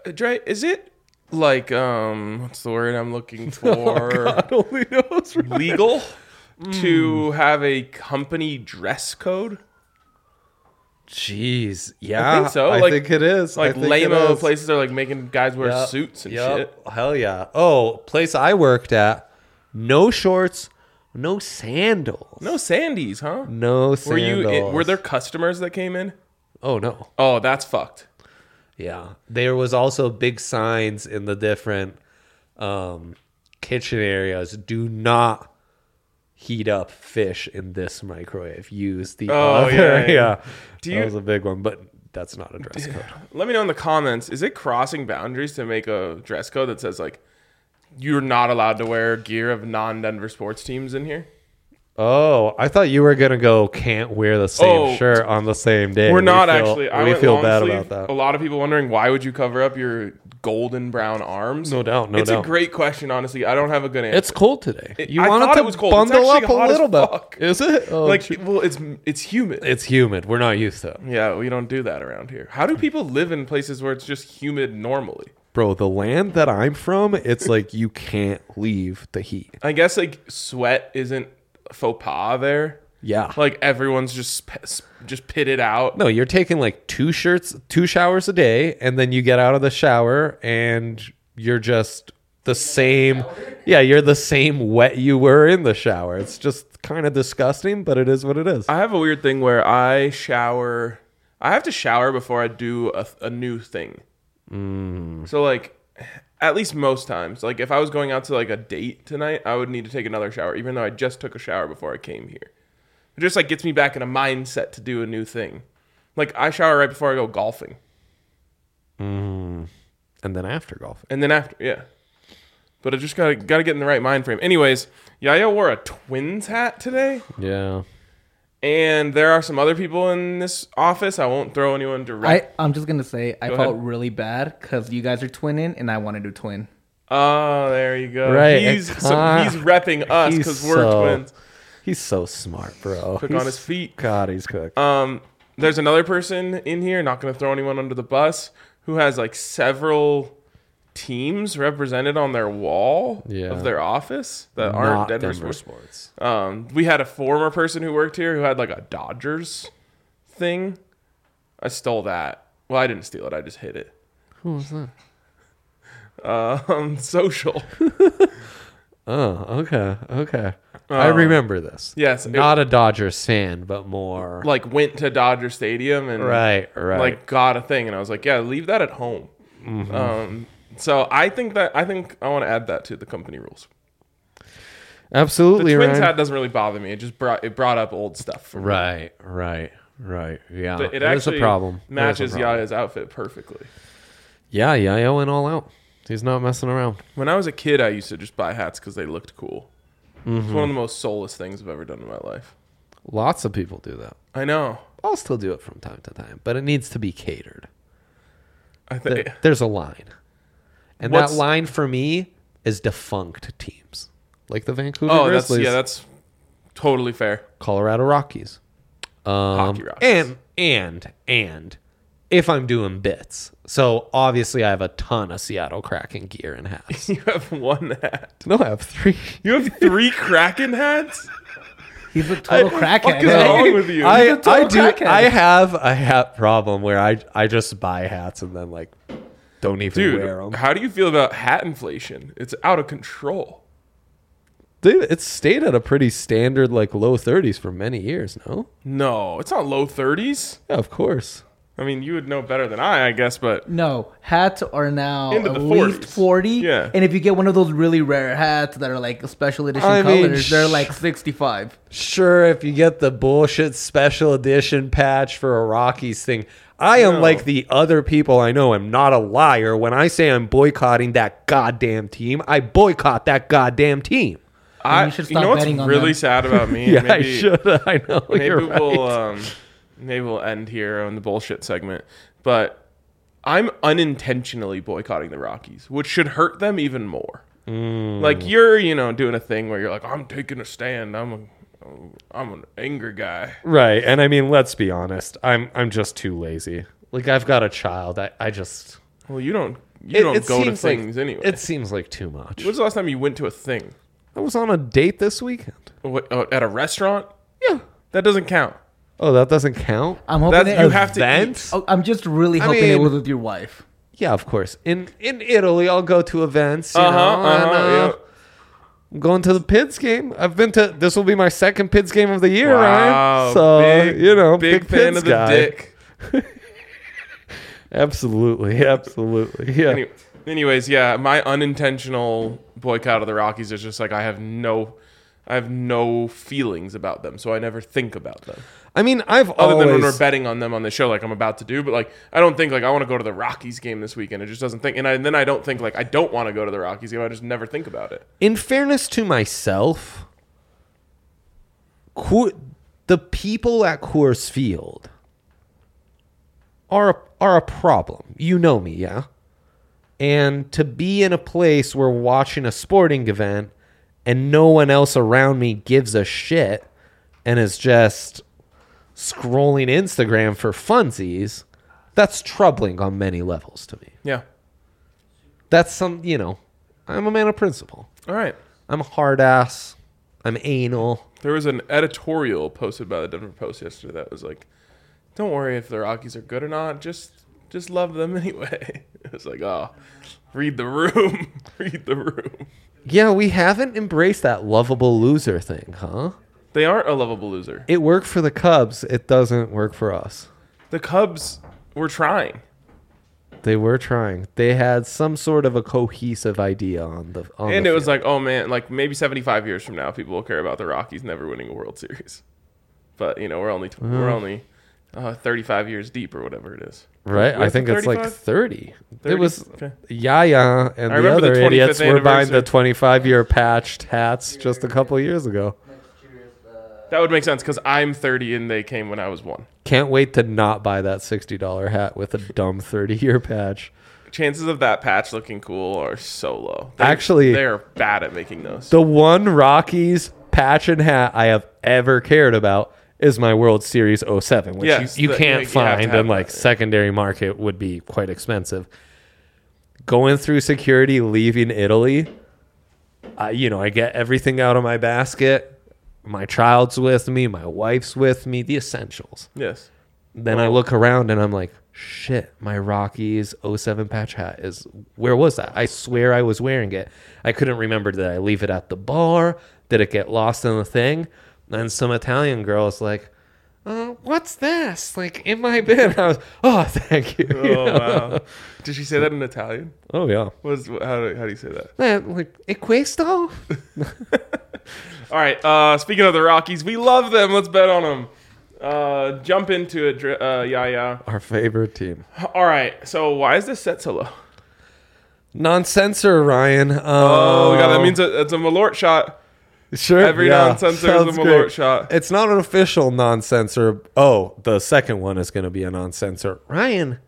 Dre, is it like what's the word I'm looking for? God only knows. Right? Legal to have a company dress code? Jeez, yeah, I think so. I Like- think it is. Like I think it lame-o is. places are like making guys wear Yep, suits and yep, shit. Hell yeah. Oh, place I worked at, no shorts, no sandals. No Sandies, huh? No Were sandals. were there customers that came in? Oh, no. Oh, that's fucked. Yeah. There was also big signs in the different kitchen areas. Do not heat up fish in this microwave. Use the other. yeah. Yeah. Do That you- was a big one, but that's not a dress code. Let me know in the comments. Is it crossing boundaries to make a dress code that says like you're not allowed to wear gear of non-Denver sports teams in here? Oh, I thought you were gonna go. Can't wear the same shirt on the same day. We're We not feel- actually. I we went feel long bad sleeve. about that. A lot of people wondering why would you cover up your golden brown arms? No doubt, no it's doubt. a great question. Honestly, I don't have a good answer. It's cold today. You I wanted thought to it was cold. It's bundle up actually a hot as little bit. fuck. Is it? Oh, like, shit. well, it's humid. It's humid. We're not used to it. Yeah, we don't do that around here. How do people live in places where it's just humid normally? Bro, the land that I'm from, it's like you can't leave the heat. I guess like sweat isn't a faux pas there. Yeah. Like everyone's just pitted out. No, you're taking like 2 showers a day, and then you get out of the shower and you're just the same. Yeah, you're the same wet you were in the shower. It's just kind of disgusting, but it is what it is. I have a weird thing where I shower. I have to shower before I do a new thing. So like, at least most times, like if I was going out to like a date tonight, I would need to take another shower, even though I just took a shower before I came here. It just like gets me back in a mindset to do a new thing. Like I shower right before I go golfing, And then after golf. and then after, yeah. But I just gotta get in the right mind frame. Anyways, Yaya wore a Twins hat today. Yeah. And there are some other people in this office. I won't throw anyone direct. I'm just gonna say I Go felt ahead. really bad because you guys are twinning and I want to do twin. Oh, there you go. Right, He's it he's repping us he's because we're so- twins. He's so smart, bro. Quick He's- on his feet. God, he's cooked. There's another person in here, not going to throw anyone under the bus, who has like several teams represented on their wall of their office that aren't Not Denver sports. We had a former person who worked here who had like a Dodgers thing. I stole that. Well, I didn't steal it. I just hid it. Who was that? Social. Oh, okay. I remember this. Yes. Not a Dodgers fan, but more Like went to Dodger Stadium and right. like got a thing, and I was like, yeah, leave that at home. So I think I want to add that to the company rules. The Absolutely Twins right. hat doesn't really bother me. It just brought up old stuff for me. Right. Yeah, But it is actually a problem. It is a matches problem. Yaya's outfit perfectly. Yeah, Yaya went all out. He's not messing around. When I was a kid, I used to just buy hats because they looked cool. It's one of the most soulless things I've ever done in my life. Lots of people do that. I know. I'll still do it from time to time, but it needs to be catered. I think There's a line. And What's- that line for me is defunct teams. Like the Vancouver that's Grizzlies, that's totally fair. Colorado Rockies. Hockey Rockies. And if I'm doing bits. So obviously I have a ton of Seattle Kraken gear and hats. You have one hat. No, I have 3. You have 3 Kraken hats? He's a total Fuck crackhead. is wrong with you? I total do. crackhead. I have a hat problem where I just buy hats and then like don't even wear Dude, them. how do you feel about hat inflation? It's out of control. Dude, it's stayed at a pretty standard like low 30s for many years. No, No, it's not low 30s. yeah, of course. I mean, you would know better than I guess, but No, hats are now Into at the least 40s. 40. Yeah. And if you get one of those really rare hats that are like special edition I mean, colors, they're like 65. Sure, if you get the bullshit special edition patch for a Rockies thing, I am No. like the other people I know. I'm not a liar. When I say I'm boycotting that goddamn team, I boycott that goddamn team. You should stop know what's betting on really them. sad about me? Yeah, maybe, I should. I know. Maybe you're right. we'll end here on the bullshit segment. But I'm unintentionally boycotting the Rockies, which should hurt them even more. Like you're, doing a thing where you're like, I'm taking a stand. I'm an angry guy. Right, and I mean, let's be honest. I'm just too lazy. Like I've got a child. I just Well, you don't you don't go to things anyway. It seems like too much. When's the last time you went to a thing? I was on a date this weekend. What, at a restaurant? Yeah. That doesn't count. Oh, that doesn't count? I'm hoping That you have to eat. Oh, I'm just really hoping it was with your wife. Yeah, of course. In Italy, I'll go to events. You know, yeah. I'm going to the Pids game. This will be my second Pids game of the year, Wow, Ryan. So, big fan Pids of the guy. dick. Absolutely. Yeah. Anyways, yeah, my unintentional boycott of the Rockies is just like I have no feelings about them, so I never think about them. I mean, Other than when we're betting on them on the show, like I'm about to do, but like I don't think like I want to go to the Rockies game this weekend. It just doesn't think, and then I don't think like I don't want to go to the Rockies game. I just never think about it. In fairness to myself, the people at Coors Field are a problem. You know me, yeah? And to be in a place where watching a sporting event and no one else around me gives a shit and is just scrolling Instagram for funsies, that's troubling on many levels to me. Yeah. That's I'm a man of principle. All right. I'm a hard ass. I'm anal. There was an editorial posted by the Denver Post yesterday that was like, "Don't worry if the Rockies are good or not. Just love them anyway." It was like, oh, read the room. Read the room. Yeah, we haven't embraced that lovable loser thing, huh? They aren't a lovable loser. It worked for the Cubs. It doesn't work for us. The Cubs were trying. They were trying. They had some sort of a cohesive idea on the And the it was field. like, oh man, like maybe 75 years from now, people will care about the Rockies never winning a World Series. But we're only 35 years deep or whatever it is. Right? Was I think it it's like 35? 30. 30? It was Okay. Yaya and I the remember the other 25th idiots were buying the anniversary. 25-year patched hats just a couple years ago. That would make sense because I'm 30 and they came when I was 1. Can't wait to not buy that $60 hat with a dumb 30-year patch. Chances of that patch looking cool are so low. Actually, they're bad at making those. The one Rockies patch and hat I have ever cared about is my World Series 07, which Yes, you you can't have to find, have and like that, yeah. secondary market would be quite expensive. Going through security, leaving Italy, I get everything out of my basket. My child's with me, my wife's with me, the essentials. Yes. Then I look around and I'm like, shit, my Rockies 07 patch hat where was that? I swear I was wearing it. I couldn't remember, did I leave it at the bar? Did it get lost in the thing? And some Italian girl is like, what's this? Like in my bin. I was, oh, thank you. Oh, wow. Did she say that in Italian? Oh, yeah. How do you say that? Like, e questo? All right. Speaking of the Rockies, we love them. Let's bet on them. Jump into it. Yeah. Our favorite team. All right. So why is this set so low? Non-censor, Ryan. Oh, God, that means it's a Malort shot. Sure. Every non-censor is a sounds Malort great. shot. It's not an official non-censor. Oh, the second one is going to be a non-censor. Ryan,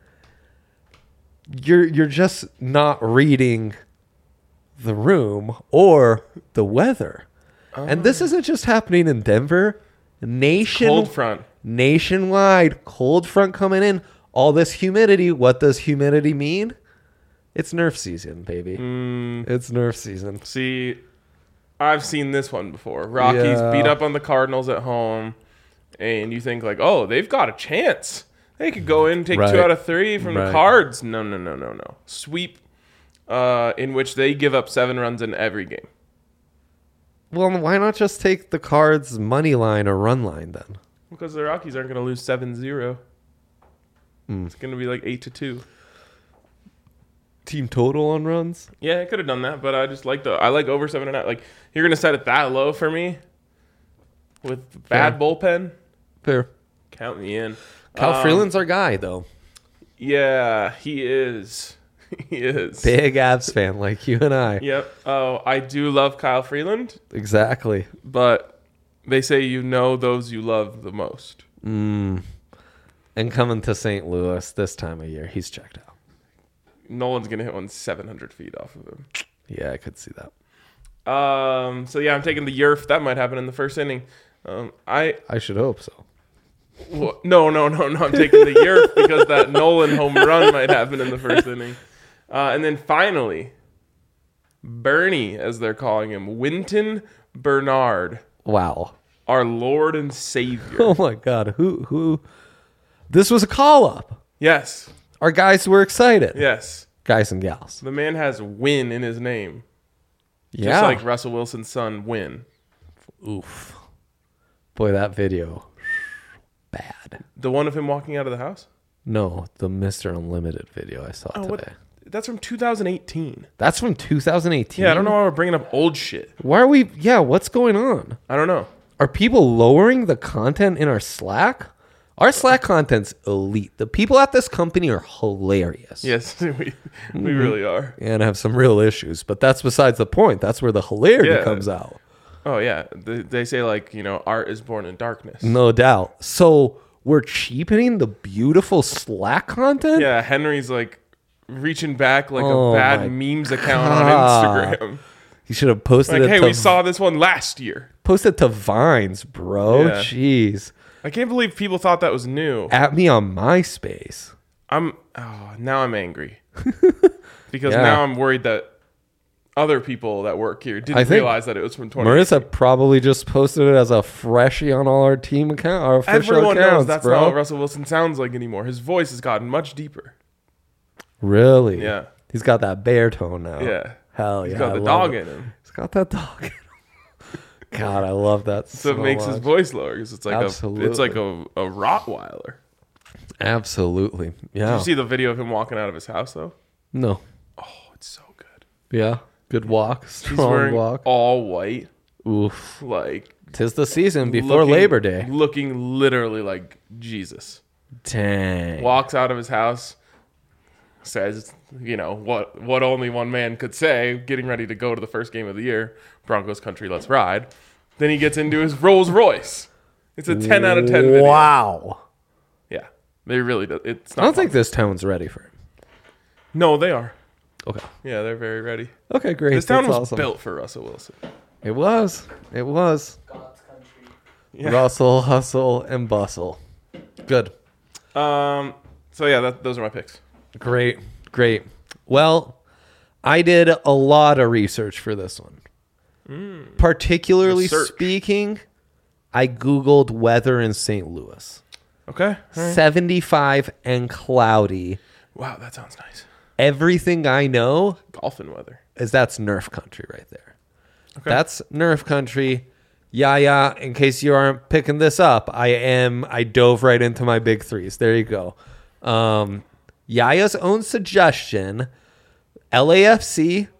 you're just not reading the room or the weather. And this isn't just happening in Denver. Cold front. Nationwide, cold front coming in. All this humidity. What does humidity mean? It's Nerf season, baby. It's Nerf season. See, I've seen this one before. Rockies Yeah. beat up on the Cardinals at home, and you think like, oh, they've got a chance. They could go in, take Right. 2 out of 3 from the Right. Cards. No. Sweep, in which they give up 7 runs in every game. Well, why not just take the Cards money line or run line then? Because the Rockies aren't going to lose 7-0. It's going to be like 8-2. Team total on runs? Yeah, I could have done that, but I just like I like over 7.5. Like you're going to set it that low for me with bad bullpen. Fair. Count me in. Cal Freeland's our guy, though. Yeah, he is. He is. Big Avs fan like you and I. Yep. Oh, I do love Kyle Freeland, Exactly. but they say you know those you love the most. And coming to St. Louis this time of year, he's checked out. Nolan's gonna hit one 700 feet off of him. Yeah, I could see that. So yeah, I'm taking the Yerf. That might happen in the first inning. I should hope so. No. I'm taking the Yerf because that Nolan home run might happen in the first inning. And then finally, Bernie, as they're calling him, Winton Bernard, Wow. our Lord and Savior. Oh my God. Who? This was a call up. Yes, Our guys were excited. yes. Guys and gals. The man has win in his name. Yeah. Just like Russell Wilson's son, Win. Oof. Boy, that video. Bad. The one of him walking out of the house? No, the Mr. Unlimited video I saw today. What? That's from 2018. That's from 2018. Yeah, I don't know why we're bringing up old shit. Why are we? Yeah, what's going on? I don't know. Are people lowering the content in our Slack? Our Slack content's elite. The people at this company are hilarious. Yes, we really are. And have some real issues, but that's besides the point. That's where the hilarity Yeah. comes out. Oh, yeah. They say, like, art is born in darkness. No doubt. So we're cheapening the beautiful Slack content? Yeah, Henry's, like, reaching back like Oh a my bad memes account God. on Instagram. You should have posted Like, it hey, to we saw this one last year. posted to Vines, bro. Yeah. Jeez. I can't believe people thought that was new. At me on MySpace. Now I'm angry. Because Yeah. now I'm worried that other people that work here I didn't think realize that it was from 20. Marissa probably just posted it as a freshie on all our team account, our official Everyone accounts, knows that's bro. not what Russell Wilson sounds like anymore. His voice has gotten much deeper. Really? Yeah. He's got that bear-tone now. Yeah. Hell He's yeah. got I the love dog it. in him. He's got that dog in him. God, I love that So it makes his much. voice lower because it's like Absolutely. a Rottweiler. Absolutely. Did Yeah. you see the video of him walking out of his house though? No. Oh, it's so good. Yeah. Good walk. He's Strong wearing walk. all white, Oof. like 'Tis the season before looking- Labor Day. looking literally like Jesus. Dang. Walks out of his house, says, what only one man could say, getting ready to go to the first game of the year, Broncos country, let's ride. Then he gets into his Rolls Royce. It's a 10 out of 10 video. Wow. Yeah, they really do. It's I not. don't think this town's ready for him. No, they are. Okay. Yeah, they're very ready. Okay, great. This town That's was awesome. built for Russell Wilson. It was. It was. God's country. Yeah. Russell, hustle, and bustle. Good. So yeah, those are my picks. Great. Great. Well, I did a lot of research for this one. Particularly Research. speaking, I Googled weather in St. Louis. Okay. All right. 75 and cloudy. Wow, that sounds nice. Everything I know Golfing weather. is that's Nerf country right there. Okay. That's Nerf country. Yeah. In case you aren't picking this up, I dove right into my big threes. There you go. Yaya's own suggestion, LAFC,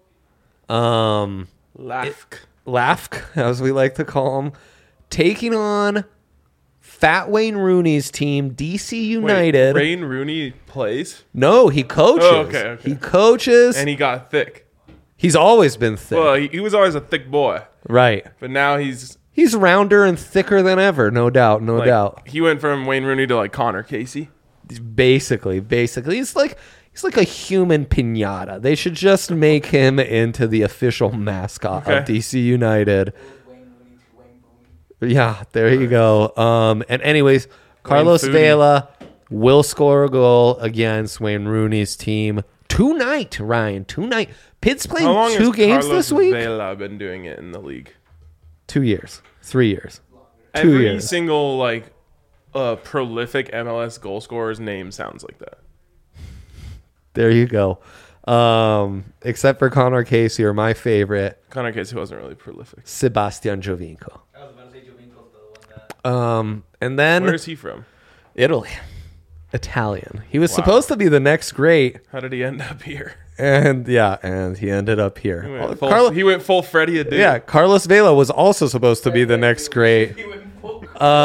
LAFC, as we like to call them, taking on Fat Wayne Rooney's team, DC United. Wait, Wayne Rooney plays, No, he coaches. Oh, okay. He coaches. and he got thick. He's always been thick. Well, he was always a thick boy, Right. but now he's He's rounder and thicker than ever, no doubt, no like, doubt. he went from Wayne Rooney to like Connor Casey. Basically, he's like a human piñata. They should just make him into the official mascot of Okay. DC United. Wayne Rooney to Wayne Boone. Yeah, there you go. And anyways, Carlos Foodie. Vela will score a goal against Wayne Rooney's team tonight. Ryan, tonight. Pitt's playing How long 2 has games Carlos this week. Vela been doing it in the league? 2 years, 3 years. Every years. single like prolific MLS goal scorer's name sounds like that. There you go. Except for Connor Casey, or my favorite, Connor Casey wasn't really prolific. Sebastian Jovinko. I was about to say Jovinko's the one that. And then Where is he from? Italy, Italian. He was Wow. supposed to be the next great, How did he end up here? and he ended up here. He Oh, went full Freddie Adu. yeah, Carlos Vela was also supposed to be the next great. He went full.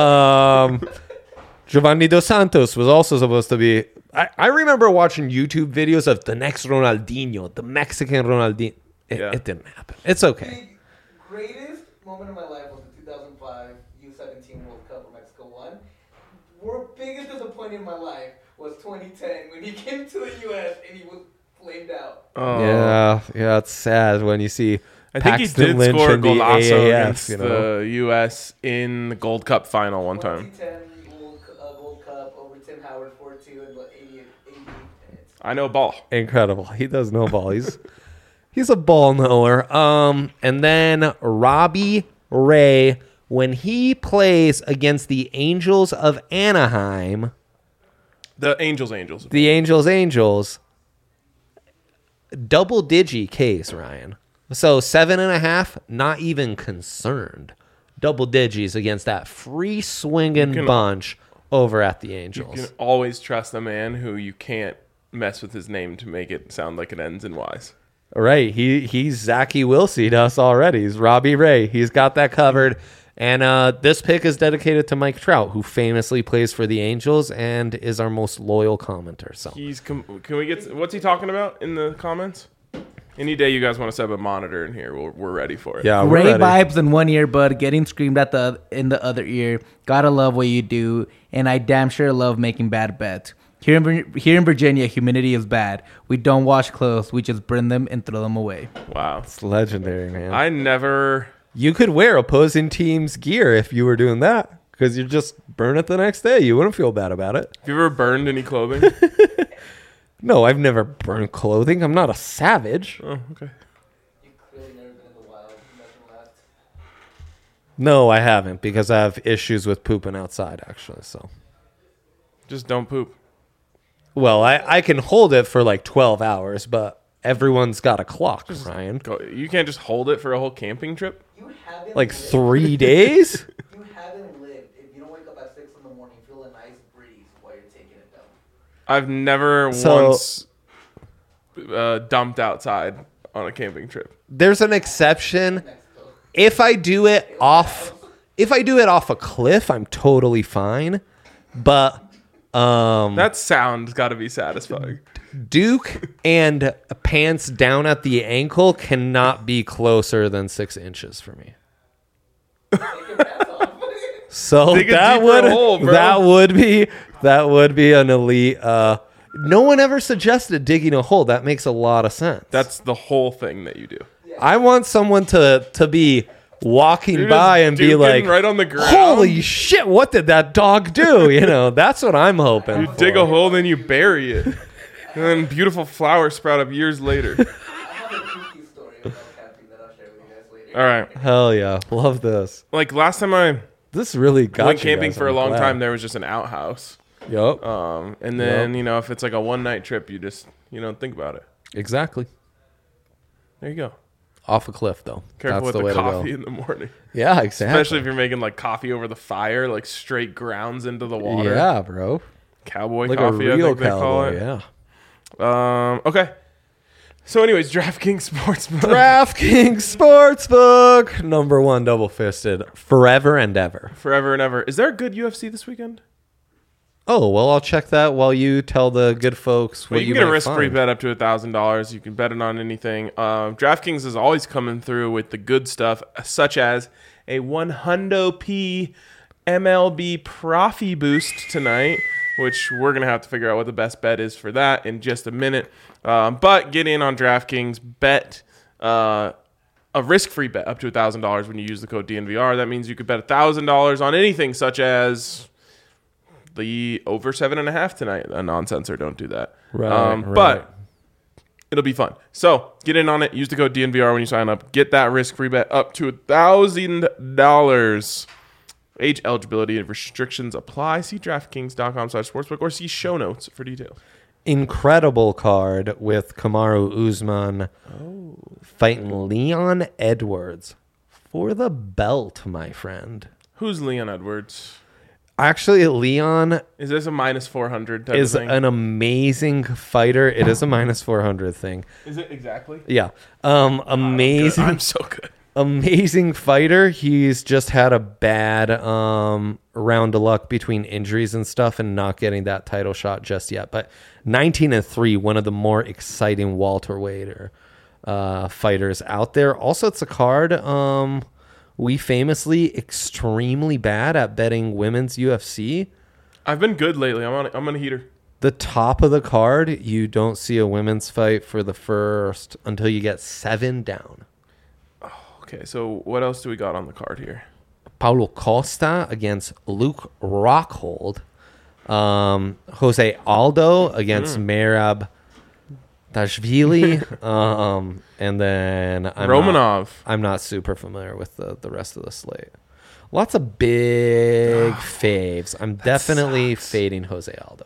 Giovanni Dos Santos was also supposed to be. I remember watching YouTube videos of the next Ronaldinho, the Mexican Ronaldinho. It didn't happen. It's okay. The greatest moment of my life was the 2005 U17 World Cup where Mexico won. The biggest disappointment in my life was 2010 when he came to the U.S. and he was flamed out. Oh. Yeah, it's sad when you see I think he Paxton did Lynch score a in the golazo AAF, against you know? the U.S. in the Gold Cup final one time. 2010 Gold Cup over Tim Howard 4-2 in the 80th minutes. I know ball. Incredible. He does know ball. He's a ball knower. And then Robbie Ray, when he plays against the Angels of Anaheim. The Angels. The Angels. Double digi case, Ryan. So 7.5, not even concerned. Double digis against that free swinging bunch over at the Angels. You can always trust a man who you can't mess with his name to make it sound like it ends in Y's. Right. He's Zachy Wilsey to us already. He's Robbie Ray. He's got that covered. And this pick is dedicated to Mike Trout, who famously plays for the Angels and is our most loyal commenter. So Can we get what's he talking about in the comments? Any day you guys want to set up a monitor in here, we're ready for it. yeah, Ray we're ready. vibes in one ear, bud, getting screamed at in the other ear. Gotta love what you do, and I damn sure love making bad bets. Here in Virginia, humidity is bad. We don't wash clothes. We just burn them and throw them away. Wow. It's legendary, man. I never... You could wear opposing team's gear if you were doing that, because you just burn it the next day. You wouldn't feel bad about it. Have you ever burned any clothing? No, I've never burned clothing. I'm not a savage. Oh, okay. You clearly never been in the wild. Nothing left. No, I haven't, because I have issues with pooping outside, actually. So, Just don't poop. well, I can hold it for like 12 hours, but everyone's got a clock, Ryan. You can't just hold it for a whole camping trip? You haven't Like lived. 3 days? You haven't lived. If you don't wake up at 6 in the morning, feel a nice breeze while you're taking it down. I've never So- once dumped outside on a camping trip. There's an exception. Mexico. If I do it off a cliff, I'm totally fine. But That sound's got to be satisfying. Duke and pants down at the ankle cannot be closer than 6 inches for me. Take your pants off. So Dig a that deeper would hole, bro. that would be an elite. No one ever suggested digging a hole. That makes a lot of sense. That's the whole thing that you do. I want someone to be walking You're by just and be duking like, right on the ground. "Holy shit! What did that dog do?" You know, that's what I'm hoping. You for. dig a hole, then you bury it. And then beautiful flowers sprout up years later. I have a kooky story about camping that I'll share with you guys later. All right. Hell yeah, love this. Like last time I This really got went you camping guys, for a I'm long glad. time, there was just an outhouse. Yup. And then, if it's like a one-night trip, you just, think about it. Exactly. There you go. Off a cliff though. Careful That's with the the way coffee to go. in the morning. Yeah, exactly. Especially if you're making like coffee over the fire, like straight grounds into the water. Yeah, bro. Cowboy Like coffee, a I real think they call cowboy. it. Yeah. Okay. So anyways, DraftKings Sportsbook. DraftKings Sportsbook, number one, double fisted, forever and ever. Forever and ever. Is there a good UFC this weekend? Oh well, I'll check that while you tell the good folks Well, what you can get a might risk-free find. bet up to $1,000. You can bet it on anything. DraftKings is always coming through with the good stuff, such as a 100p MLB Profi boost tonight, which we're going to have to figure out what the best bet is for that in just a minute. But get in on DraftKings, bet a risk-free bet up to $1,000 when you use the code DNVR. That means you could bet $1,000 on anything, such as the over 7.5 tonight. A non-censor, don't do that. Right. But it'll be fun. So get in on it. Use the code DNVR when you sign up. Get that risk-free bet up to $1,000. Age, eligibility, and restrictions apply. See DraftKings.com/sportsbook or see show notes for details. Incredible card with Kamaru Usman fighting Leon Edwards for the belt, my friend. Who's Leon Edwards? Actually, Leon Is this a minus 400 type is of thing? an amazing fighter. It is a minus 400 thing. Is it exactly? Yeah. Amazing. I'm so good. Amazing fighter. He's just had a bad round of luck between injuries and stuff and not getting that title shot just yet. But 19-3, one of the more exciting welterweight fighters out there. Also, it's a card we famously extremely bad at betting women's UFC. I've been good lately. I'm on a heater. The top of the card, you don't see a women's fight for the first until you get 7 down. Okay, so what else do we got on the card here? Paulo Costa against Luke Rockhold. Jose Aldo against Merab Dashvili. And then Romanov. I'm not super familiar with the rest of the slate. Lots of big faves. I'm definitely fading Jose Aldo.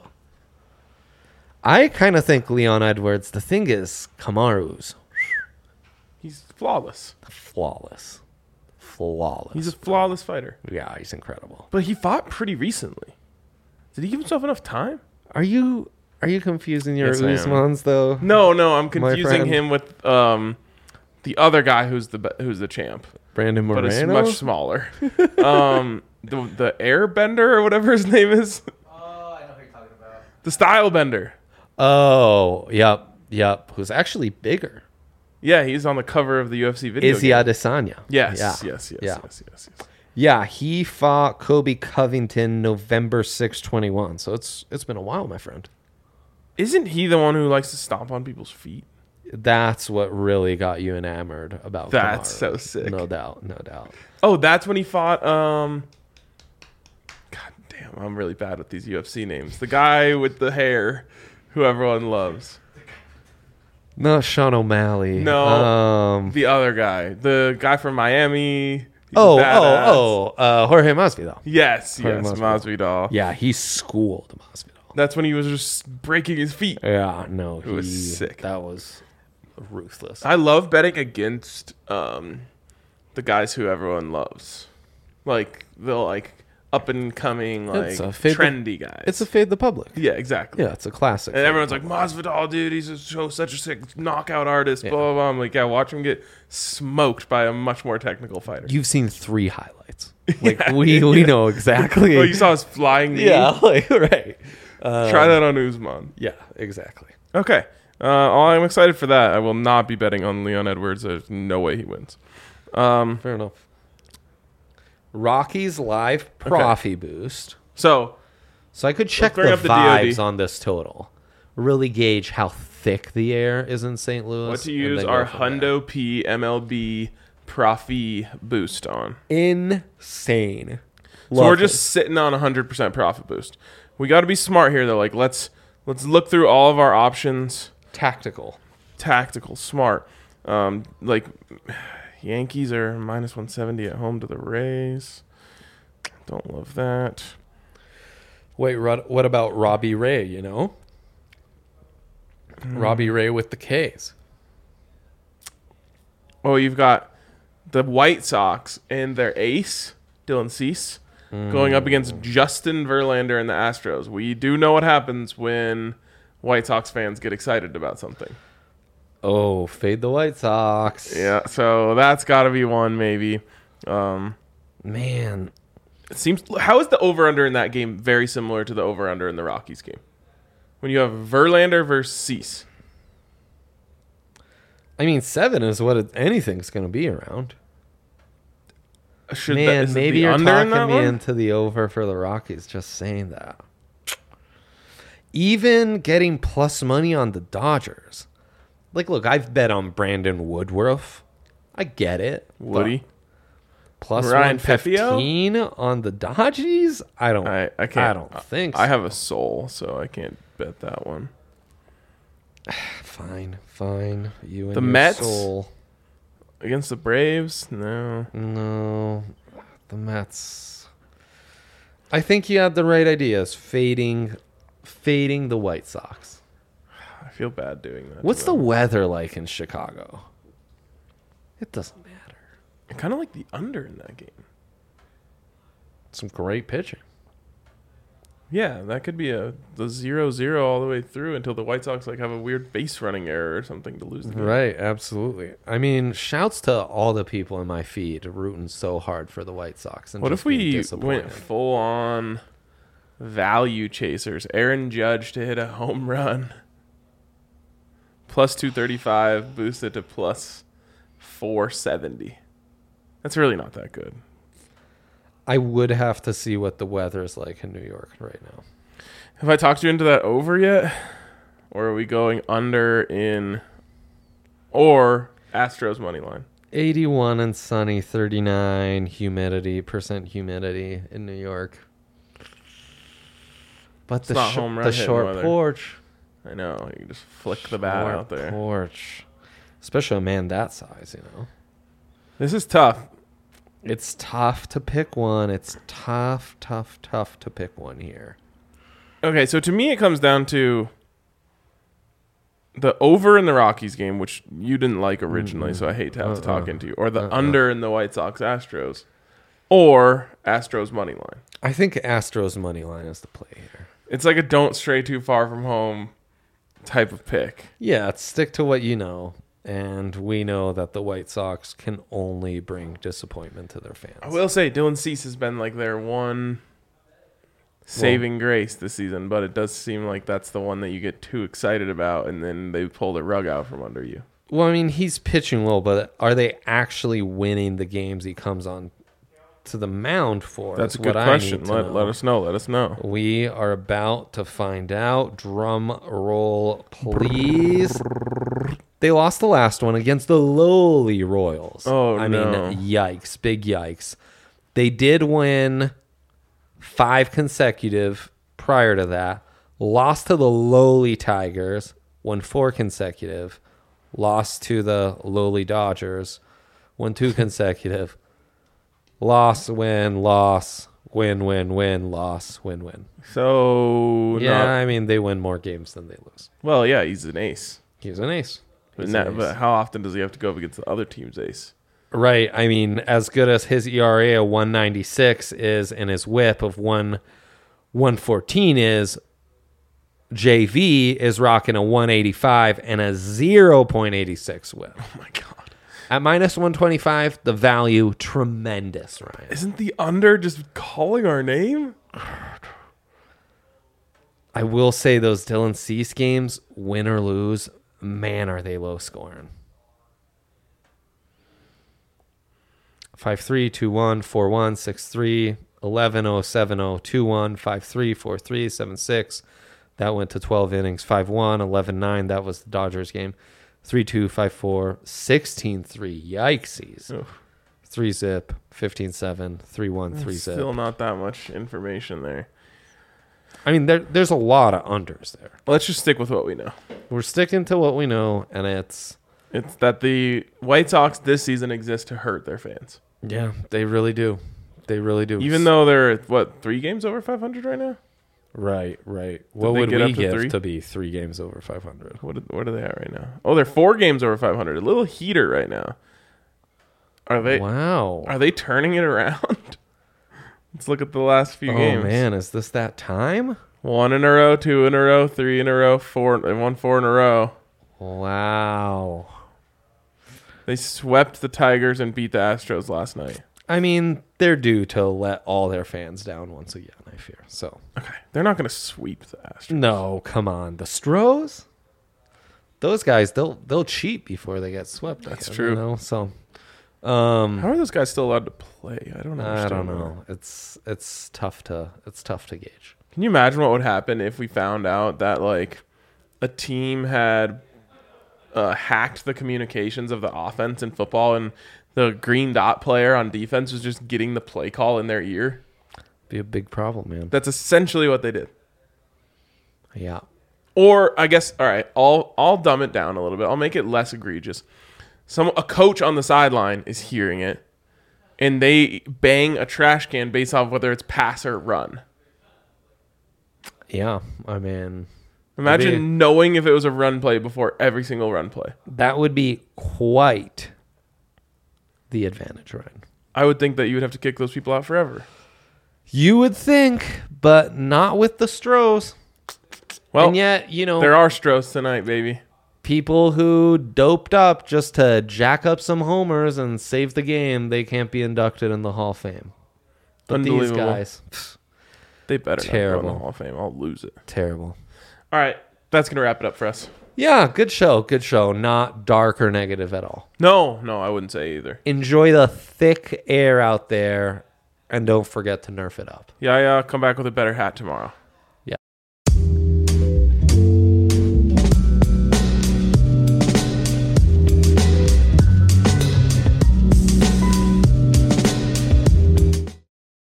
I kind of think Leon Edwards. The thing is, Kamaru's He's flawless. flawless. He's a flawless fighter. Yeah, he's incredible. But he fought pretty recently. Did he give himself enough time? Are you confusing your Yes, I am. Usmans though? No, I'm My confusing friend. him with the other guy who's the champ, Brandon Moreno. but it's much smaller. The Airbender or whatever his name is, Oh, I know who you're talking about. the Style Bender. Oh, yep. Who's actually bigger? Yeah, he's on the cover of the UFC video. Izzy game. Adesanya. Yes. Yeah, he fought Kobe Covington November 6, 21. So it's been a while, my friend. Isn't he the one who likes to stomp on people's feet? That's what really got you enamored about That's Kamaru. so sick. No doubt. Oh, that's when he fought. God damn, I'm really bad with these UFC names. The guy with the hair, who everyone loves. Not Sean O'Malley. No, the other guy, the guy from Miami. He's badass. Jorge Masvidal. Yes, Jorge Masvidal. Yeah, he schooled Masvidal. That's when he was just breaking his feet. Yeah, no, It was sick. That was ruthless. I love betting against the guys who everyone loves, like the up and coming It's a fade trendy guys. It's a fade the public. yeah, exactly. Yeah, it's a classic. And everyone's like, Masvidal, dude, he's such a sick knockout artist. Yeah. Blah blah blah. I'm like, yeah, watch him get smoked by a much more technical fighter. You've seen 3 highlights. Like we know exactly. Oh, you saw his flying knee. yeah, like right. Try that on Usman. Yeah, exactly. Okay. I'm excited for that. I will not be betting on Leon Edwards. There's no way he wins. Fair enough. Rocky's live Profi boost. So So I could check the bring up the vibes DOD. on this total. Really gauge how thick the air is in St. Louis. what to and use then our go from there. Hundo P MLB Profi boost on. Insane. So we're just sitting on 100% profit boost. We got to be smart here though. Like let's look through all of our options. tactical. Tactical, smart. Like Yankees are minus 170 at home to the Rays. Don't love that. Wait, what about Robbie Ray, you know? Robbie Ray with the K's. Oh, you've got the White Sox and their ace, Dylan Cease, going up against Justin Verlander and the Astros. We do know what happens when White Sox fans get excited about something. Oh, fade the White Sox. Yeah, so that's got to be one maybe. Man. It seems. How is the over/under in that game very similar to the over/under in the Rockies game? When you have Verlander versus Cease. I mean, 7 is what anything's going to be around. Is it Maybe the you're under in that talking me one? into the over for the Rockies just saying that. Even getting plus money on the Dodgers. Like, look, I've bet on Brandon Woodruff. I get it. but Woody. Plus Ryan 115 on the Dodgers? I don't I can't. I don't think so. I have a soul, so I can't bet that one. Fine. You and The your Mets? soul. Against the Braves? No. No. The Mets. I think you had the right ideas. Fading the White Sox. I feel bad doing that. What's the weather like in Chicago? It doesn't matter. I kind of like the under in that game. Some great pitching. Yeah, that could be the 0-0 all the way through until the White Sox have a weird base running error or something to lose the game. Right, absolutely. I mean, shouts to all the people in my feed rooting so hard for the White Sox. And What just if we being disappointed. went full on value chasers? Aaron Judge to hit a home run. Plus 235, boosted to plus 470. That's really not that good. I would have to see what the weather's like in New York right now. Have I talked you into that over yet? Or are we going under in or Astros money line? 81 and sunny, 39 humidity in New York. But It's not home run the hitting short weather. porch. I know. You can just flick the bat Front out there. porch. Especially a man that size, This is tough. It's tough to pick one. It's tough to pick one here. Okay, so to me, it comes down to the over in the Rockies game, which you didn't like originally, so I hate to have to talk into you, or the under in the White Sox Astros, or Astros money line. I think Astros money line is the play here. It's like a don't stray too far from home type of pick. Yeah, stick to what you know. And we know that the White Sox can only bring disappointment to their fans. I will say Dylan Cease has been like their one saving grace this season, but it does seem like that's the one that you get too excited about, and then they pull the rug out from under you. Well, I mean, he's pitching well, but are they actually winning the games he comes on to the mound for? That's a is good what question. I need to know. Let us know. Let us know. We are about to find out. Drum roll, please. They lost the last one against the lowly Royals. Oh, I no. mean, yikes. Big yikes. They did win 5 consecutive prior to that. Lost to the lowly Tigers. Won 4 consecutive. Lost to the lowly Dodgers. Won 2 consecutive. Loss, win, loss, win, win, win, loss, win, win. So Yeah, I mean, they win more games than they lose. well, yeah, he's an ace. He's an ace. He's But, an ace. but how often does he have to go up against the other team's ace? Right. I mean, as good as his ERA of 196 is and his whip of 114 is, JV is rocking a 185 and a 0.86 whip. Oh my god! At minus 125, the value tremendous, Ryan. Isn't the under just calling our name? I will say those Dylan Cease games, win or lose, man, are they low scoring. 5-3, 2-1, 4-1, 6-3, 11-0, 7-0, 2-1, 5-3, 4-3, 7-6. That went to 12 innings. 5-1, 11-9. That was the Dodgers game. 3-2, 5-4, 16-3. Yikesies. Oof. 3-zip, 15-7, 3-1, 3-zip. Still not that much information there. I mean, there's a lot of unders there. Let's just stick with what we know. We're sticking to what we know, and it's that the White Sox this season exist to hurt their fans. yeah, they really do. They really do. Even though they're, 3 games over 500 right now? Right. What they would get we up to give 3? to be 3 games over 500? What are they at right now? Oh, they're 4 games over 500. A little heater right now. Are they? Wow. Are they turning it around? Let's look at the last few games. Oh man, is this that time? 1 in a row, 2 in a row, 3 in a row, 4 in a row. Wow. They swept the Tigers and beat the Astros last night. I mean, they're due to let all their fans down once again, I fear. So, Okay, they're not going to sweep the Astros. no, come on. The Stros? Those guys, they'll cheat before they get swept. That's again, true. You know? So, How are those guys still allowed to play? I don't understand. I don't that. know. It's tough to gauge. Can you imagine what would happen if we found out that like a team had hacked the communications of the offense in football, and the green dot player on defense was just getting the play call in their ear? Be a big problem, man. That's essentially what they did. Yeah. Or I guess, all right, I'll dumb it down a little bit. I'll make it less egregious. A coach on the sideline is hearing it, and they bang a trash can based off whether it's pass or run. Yeah. I mean, Imagine Maybe- knowing if it was a run play before every single run play. that would be quite the advantage, Ryan. I would think that you would have to kick those people out forever. You would think, but not with the Stros. Well, And yet, there are Stros tonight, baby. people who doped up just to jack up some homers and save the game, they can't be inducted in the Hall of Fame. But these Unbelievable. guys, They better not go in Terrible. the Hall of Fame. I'll lose it. terrible. All right, that's gonna wrap it up for us. Yeah, good show. Good show. Not dark or negative at all. No, I wouldn't say either. Enjoy the thick air out there, and don't forget to nerf it up. Yeah, come back with a better hat tomorrow.